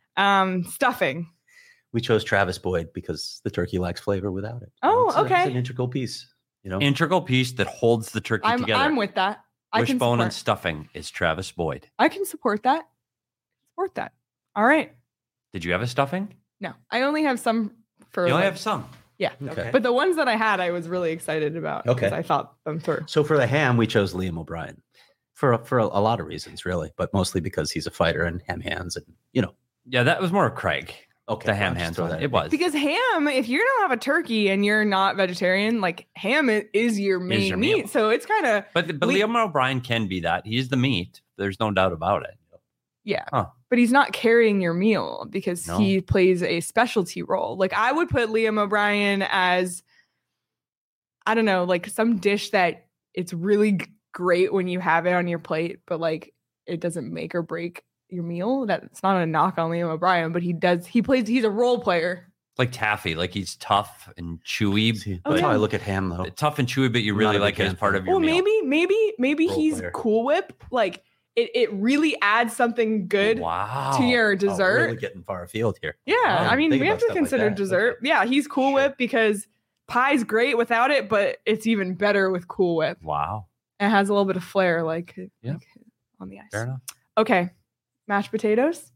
S1: um, stuffing.
S2: We chose Travis Boyd because the turkey lacks flavor without it.
S1: Oh,
S2: It's a-
S1: okay.
S2: It's an integral piece. You know,
S3: Integral piece that holds the turkey
S1: I'm
S3: together.
S1: I'm with that. I can
S3: Wishbone and
S1: support.
S3: stuffing is Travis Boyd.
S1: I can support that. Support that. All right.
S3: Did you have a stuffing?
S1: No, I only have some for.
S3: You only
S1: like-
S3: have some.
S1: yeah,
S2: Okay.
S1: but the ones that I had, I was really excited about.
S2: Okay.
S1: because I thought them through.
S2: So for the ham, we chose Liam O'Brien for for a, a lot of reasons, really, but mostly because he's a fighter and ham hands, and you know.
S3: Yeah, that was more Craig.
S2: Okay,
S3: The ham
S2: I'll just
S3: hands
S2: throw
S3: one.
S2: that
S3: It
S2: in.
S3: was.
S1: Because ham, if you don't have a turkey and you're not vegetarian, like ham i- is your main
S3: your
S1: meat.
S3: meal.
S1: So it's kind of
S3: But but
S1: We-
S3: Liam O'Brien can be that. He's the meat. There's no doubt about it.
S1: yeah.
S3: Huh.
S1: But he's not carrying your meal because
S3: No.
S1: he plays a specialty role. Like I would put Liam O'Brien as, I don't know, like some dish that it's really g- great when you have it on your plate, but like it doesn't make or break your meal. That's not a knock on Liam O'Brien, but he does. He plays. He's a role player.
S3: Like taffy, like he's tough and chewy.
S2: See,
S1: Oh,
S2: that's how
S1: yeah.
S2: I look at ham, though.
S3: Tough and chewy, but you
S2: I'm
S3: really
S2: not a
S3: like
S2: big
S3: it as
S2: ham
S3: part
S2: fan.
S3: of your
S1: Well,
S3: meal.
S1: maybe, maybe, maybe
S2: Role
S1: he's
S2: player.
S1: Cool Whip. Like it, it really adds something good
S3: Wow.
S1: to your
S2: Oh,
S1: dessert.
S2: really getting far afield here.
S1: Yeah,
S2: Wow,
S1: I mean,
S2: think
S1: we have
S2: about
S1: to
S2: stuff like
S1: consider
S2: that.
S1: dessert.
S2: Okay.
S1: Yeah, he's Cool
S2: Sure.
S1: Whip because pie's great without it, but it's even better with Cool Whip.
S3: Wow.
S1: It has a little bit of flair, like,
S3: Yeah.
S1: like on the ice.
S3: Fair enough.
S1: Okay, mashed potatoes.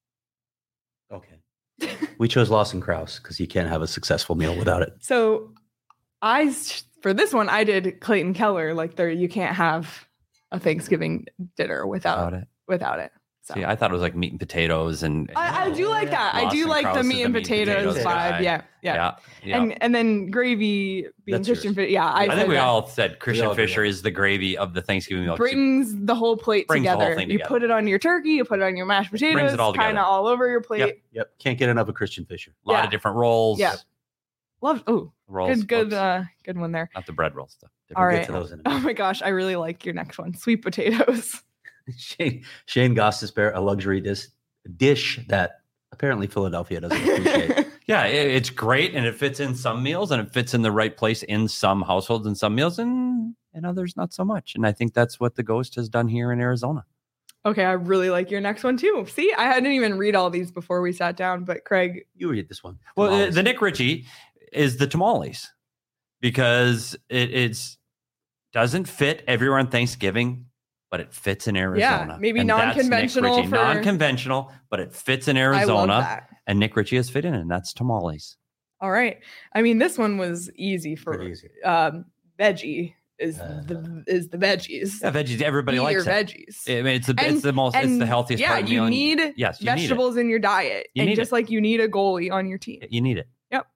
S2: Okay. We chose Lawson Krause because you can't have a successful meal without it.
S1: So, I s- for this one I did Clayton Keller. Like, there you can't have a Thanksgiving dinner without
S3: About it.
S1: without it. So.
S3: See, I thought it was like meat and potatoes, and
S1: I, I do like that. I do
S3: Lawson
S1: like the
S3: Krause is
S1: meat and potatoes vibe.
S3: guy.
S1: Yeah, yeah,
S3: yeah, yeah.
S1: And and then gravy being
S2: That's
S1: Christian.
S2: yours.
S1: Fi- Yeah, I,
S3: I,
S1: said
S3: think we
S1: that.
S3: all said Christian
S2: all agree
S3: Fisher
S2: on
S3: is the gravy of the Thanksgiving meal.
S1: brings the whole plate
S3: Brings the whole
S1: together.
S3: thing
S1: You
S3: together.
S1: put it on your turkey, you put it on your mashed potatoes,
S3: it all
S1: kind
S3: together.
S1: of all over your plate.
S2: Yep. Can't get enough of Christian Fisher.
S3: A lot
S1: yeah.
S3: of different rolls.
S1: Yeah. Love. Oh,
S3: rolls.
S1: good, good,
S3: whoops.
S1: uh, good one there.
S3: Not the bread roll stuff.
S1: All
S2: We'll
S1: right.
S2: get to those in a
S1: Oh
S2: minute.
S1: my gosh, I really like your next one, sweet potatoes.
S2: Shane Shane Gostisbehere, a luxury dish dish that apparently Philadelphia doesn't appreciate.
S3: Yeah, it, it's great, and it fits in some meals, and it fits in the right place in some households and some meals, and and others not so much. And I think that's what the Ghost has done here in Arizona.
S1: Okay, I really like your next one too. See, I didn't even read all these before we sat down, but Craig,
S2: You read this one.
S3: Well, uh,
S2: Tamales.
S3: the Nick Ritchie is the tamales because it it's doesn't fit everywhere on Thanksgiving, but it fits in Arizona.
S1: maybe
S3: And that's Nick
S1: non-conventional
S3: Ritchie.
S1: for-
S3: non-conventional, but it fits in
S1: I love
S3: Arizona,
S1: that.
S3: and Nick Ritchie has fit in, and that's tamales.
S1: All right. I mean, this one was easy for
S2: Pretty easy.
S1: um veggie is
S2: Uh,
S1: the is the veggies.
S3: Yeah, veggies. Everybody
S1: Eat your
S3: likes it.
S1: veggies.
S3: I mean, it's the
S1: And-
S3: it's the most it's
S1: And
S3: the healthiest
S1: yeah,
S3: part of the
S1: you
S3: meal, and
S1: need
S3: yes, you need it.
S1: vegetables in your diet.
S3: You
S1: and
S3: need
S1: just
S3: it.
S1: like you need a goalie on your team.
S3: You need it.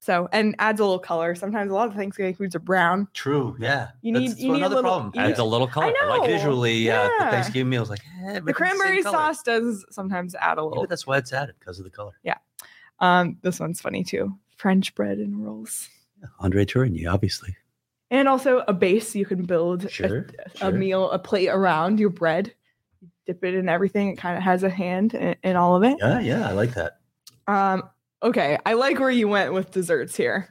S1: So, and adds a little color. Sometimes a lot of Thanksgiving foods are brown.
S2: True. Yeah.
S1: You need-
S2: That's
S1: you need a
S2: another
S1: little-
S2: problem.
S1: you
S3: Adds a little color.
S1: I know.
S2: Like visually, uh,
S1: Yeah.
S2: the Thanksgiving meal is like eh,
S1: The
S2: everything's same
S1: cranberry
S2: color.
S1: sauce does sometimes add a
S2: Yeah,
S1: little.
S2: but that's why it's added because of the color.
S1: Um, this one's funny too. French bread and rolls.
S2: Andre Tourigny, obviously.
S1: And also a base you can build a-
S2: Sure,
S1: a,
S2: sure.
S1: meal, a plate around your bread. You dip it in everything. It kind of has a hand in, in all of it.
S2: Yeah, yeah, I like that.
S1: Um, okay, I like where you went with desserts here.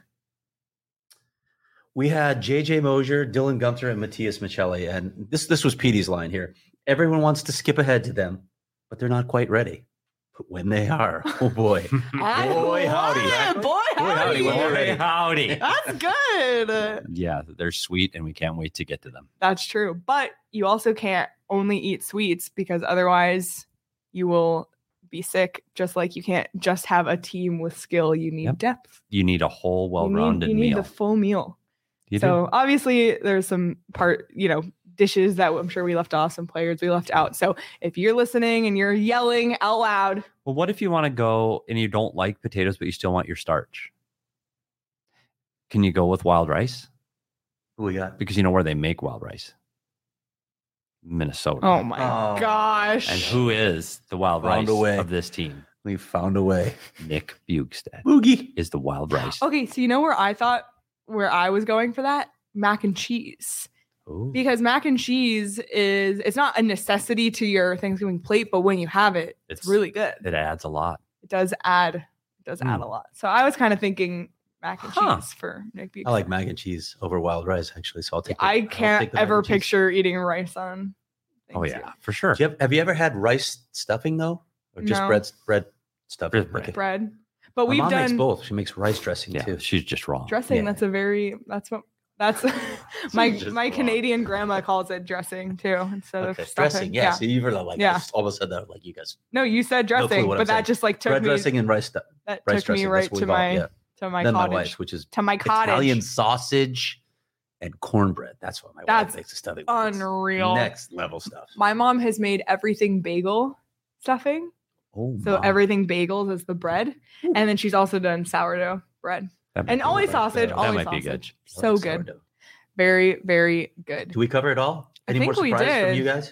S2: We had J J Mosier, Dylan Gunther, and Matthias Michelli. And this this was Petey's line here. Everyone wants to skip ahead to them, but they're not quite ready. But when they are, oh boy.
S1: I
S2: Boy, howdy.
S1: love it. Boy,
S2: Boy, howdy,
S1: howdy.
S2: when they're ready.
S3: howdy.
S1: That's good.
S3: Yeah, they're sweet and we can't wait to get to them.
S1: That's true. But you also can't only eat sweets because otherwise you will be sick. Just like you can't just have a team with skill. You need
S3: Yep.
S1: depth.
S3: You need a whole
S1: You
S3: well-rounded
S1: need, you need
S3: meal.
S1: the full meal.
S3: You
S1: so
S3: do.
S1: obviously there's some part, you know, dishes that I'm sure we left off, some players we left out. So if you're listening and you're yelling out loud,
S3: Well, what if you want to go and you don't like potatoes, but you still want your starch? Can you go with wild rice?
S2: Who we got?
S3: Because you know where they make wild rice? Minnesota.
S1: oh my
S2: Oh.
S1: gosh.
S3: And who is the wild
S2: Found
S3: rice
S2: a way.
S3: of this team?
S2: We found a way.
S3: Nick Bugstad
S2: Boogie.
S3: is the wild rice.
S1: Okay, so you know where I thought where I was going for that? Mac and cheese.
S3: Ooh.
S1: Because mac and cheese is it's not a necessity to your Thanksgiving plate, but when you have it, it's,
S3: It's-
S1: really good.
S3: It adds a lot.
S1: It does add it does add
S3: Mm.
S1: a lot. So I was kind of thinking mac and
S3: Huh.
S1: cheese for Nick Bugstad.
S2: I like mac and cheese over wild rice, actually. So I'll take. the-
S1: I
S2: I'll
S1: can't
S2: take the mac
S1: ever
S2: and cheese.
S1: picture eating rice on.
S3: Oh
S1: Thanksgiving.
S3: yeah, for sure.
S2: Do you have, have you ever had rice stuffing though, or just
S1: No.
S2: bread bread stuffing?
S3: Just bread.
S2: Okay.
S1: bread. But
S2: My
S1: we've
S2: mom makes
S1: done
S2: both. She makes rice dressing
S3: Yeah,
S2: too.
S3: she's just wrong.
S1: dressing.
S2: Yeah.
S1: That's a very that's what that's my
S3: just
S1: my
S3: wrong.
S1: Canadian grandma calls it dressing too instead
S2: Okay,
S1: of stuffing.
S2: dressing. Yeah. So you were like,
S1: Yeah.
S2: yeah. almost said that like you guys.
S1: No, you said
S2: No clue
S1: dressing,
S2: what
S1: but
S2: I'm
S1: that
S2: saying.
S1: just like took
S2: Bread
S1: me
S2: dressing and rice stuff.
S1: that
S2: Rice
S1: took me
S2: dressing.
S1: right
S2: That's what
S1: to
S2: we call
S1: my
S2: it. Yeah.
S1: to my
S2: then my
S1: cottage.
S2: wife's, which is
S1: to my cottage.
S2: Italian sausage and cornbread. That's what my
S1: That's
S2: wife makes the stuffing. with. It's
S1: Unreal.
S2: Next level stuff.
S1: My mom has made everything bagel stuffing.
S2: Oh,
S1: So
S2: my.
S1: everything bagels is the bread. And then she's also done sourdough bread.
S3: That might
S1: And
S3: be
S1: always
S3: good.
S1: sausage,
S2: That
S1: always
S3: might be good.
S1: sausage.
S2: I
S1: So
S2: like
S1: good.
S2: sourdough.
S1: Very, very good.
S2: Do we cover it all?
S1: I
S2: Any more
S1: think we
S2: surprises from
S1: did.
S2: you guys?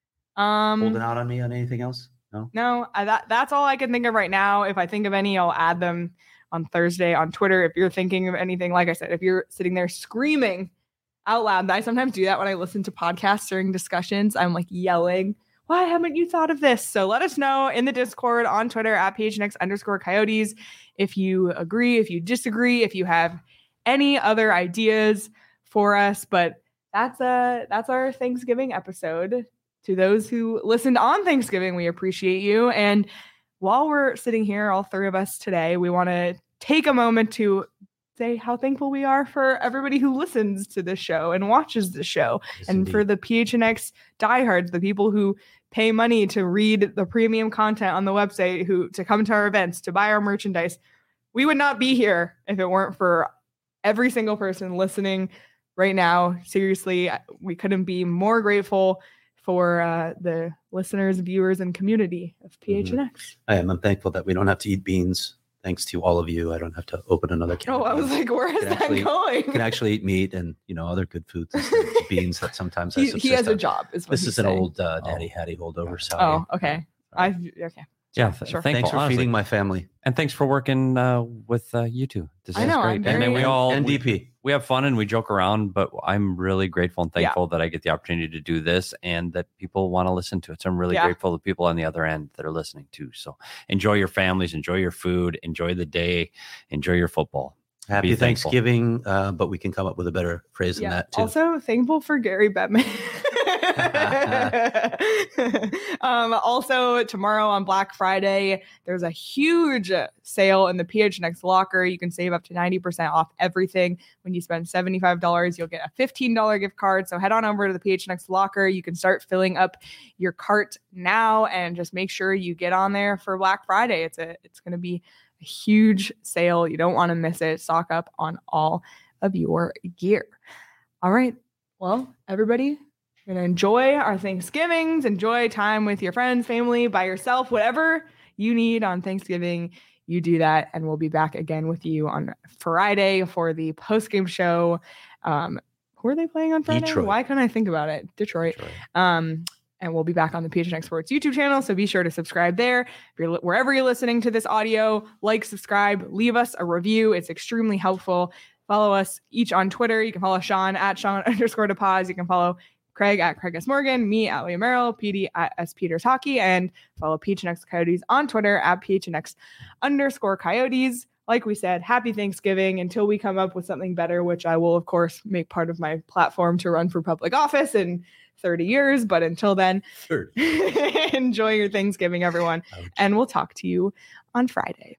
S2: Holding
S1: Um
S2: out on me on anything else? No.
S1: no, I, that that's all I can think of right now. If I think of any, I'll add them on Thursday on Twitter. If you're thinking of anything, like I said, if you're sitting there screaming out loud, I sometimes do that when I listen to podcasts during discussions. I'm like yelling, why haven't you thought of this? So let us know in the Discord on Twitter at P H N X underscore coyotes if you agree, if you disagree, if you have any other ideas for us. But that's a that's our Thanksgiving episode. To those who listened on Thanksgiving, we appreciate you. And while we're sitting here, all three of us today, we want to take a moment to say how thankful we are for everybody who listens to this show and watches the show.
S2: Yes,
S1: And for
S2: indeed.
S1: the P H N X diehards, the people who pay money to read the premium content on the website, who to come to our events, to buy our merchandise. We would not be here if it weren't for every single person listening right now. Seriously, we couldn't be more grateful for uh, the listeners, viewers, and community of P H N X.
S2: I am. I'm thankful that we don't have to eat beans. Thanks to all of you, I don't have to open another can.
S1: Oh,
S2: of
S1: I was
S2: beans.
S1: like, where is
S2: Can
S1: that
S2: actually-
S1: going?
S2: I can actually eat meat and you know other good foods instead of beans that sometimes I
S1: he, he
S2: subsist
S1: has a
S2: on.
S1: job. Is what
S2: This
S1: he's
S2: is an
S1: saying.
S2: old uh,
S3: Oh.
S2: Daddy Hattie holdover. Sorry.
S1: Oh, okay. I okay.
S3: Yeah, th-
S1: Sure.
S3: thankful,
S2: Thanks for
S3: honestly.
S2: feeding my family.
S3: And thanks for working uh, with uh, you two. This
S1: I
S3: is
S1: know,
S3: great.
S1: I'm
S3: and then we
S1: very-
S3: all
S2: and
S3: we,
S2: D P.
S3: we have fun and we joke around, but I'm really grateful and
S1: Yeah.
S3: thankful that I get the opportunity to do this and that people want to listen to it. So I'm really
S1: Yeah.
S3: grateful to people on the other end that are listening too. So enjoy your families, enjoy your food, enjoy the day, enjoy your football.
S2: Happy
S3: Be thankful.
S2: Thanksgiving, uh, but we can come up with a better phrase than
S1: Yeah.
S2: that too.
S1: Also, thankful for Gary Bettman. um, also, tomorrow on Black Friday, there's a huge sale in the P H N X locker. You can save up to ninety percent off everything. When you spend seventy-five dollars, you'll get a fifteen dollars gift card. So head on over to the P H N X locker. You can start filling up your cart now and just make sure you get on there for Black Friday. It's a it's going to be a huge sale. You don't want to miss it. Stock up on all of your gear. All right. Well, everybody, we're going to enjoy our Thanksgivings, enjoy time with your friends, family, by yourself, whatever you need on Thanksgiving. you do that. And we'll be back again with you on Friday for the post-game show. Um, who are they playing on Friday?
S2: Detroit.
S1: Why couldn't I think about it? Detroit.
S3: Detroit.
S1: Um, and we'll be back on the P H N X Sports YouTube channel. So be sure to subscribe there. If you're li- wherever you're listening to this audio, like, subscribe, leave us a review. It's extremely helpful. Follow us each on Twitter. You can follow Sean at Sean underscore DePaz. You can follow Craig at Craig S. Morgan, me at Leah Merrill, P D at S. Peters Hockey, and follow P H N X Coyotes on Twitter at P H N X underscore Coyotes. Like we said, happy Thanksgiving until we come up with something better, which I will, of course, make part of my platform to run for public office in thirty years. But until then,
S2: Sure.
S1: enjoy your Thanksgiving, everyone.
S2: Ouch.
S1: And we'll talk to you on Friday.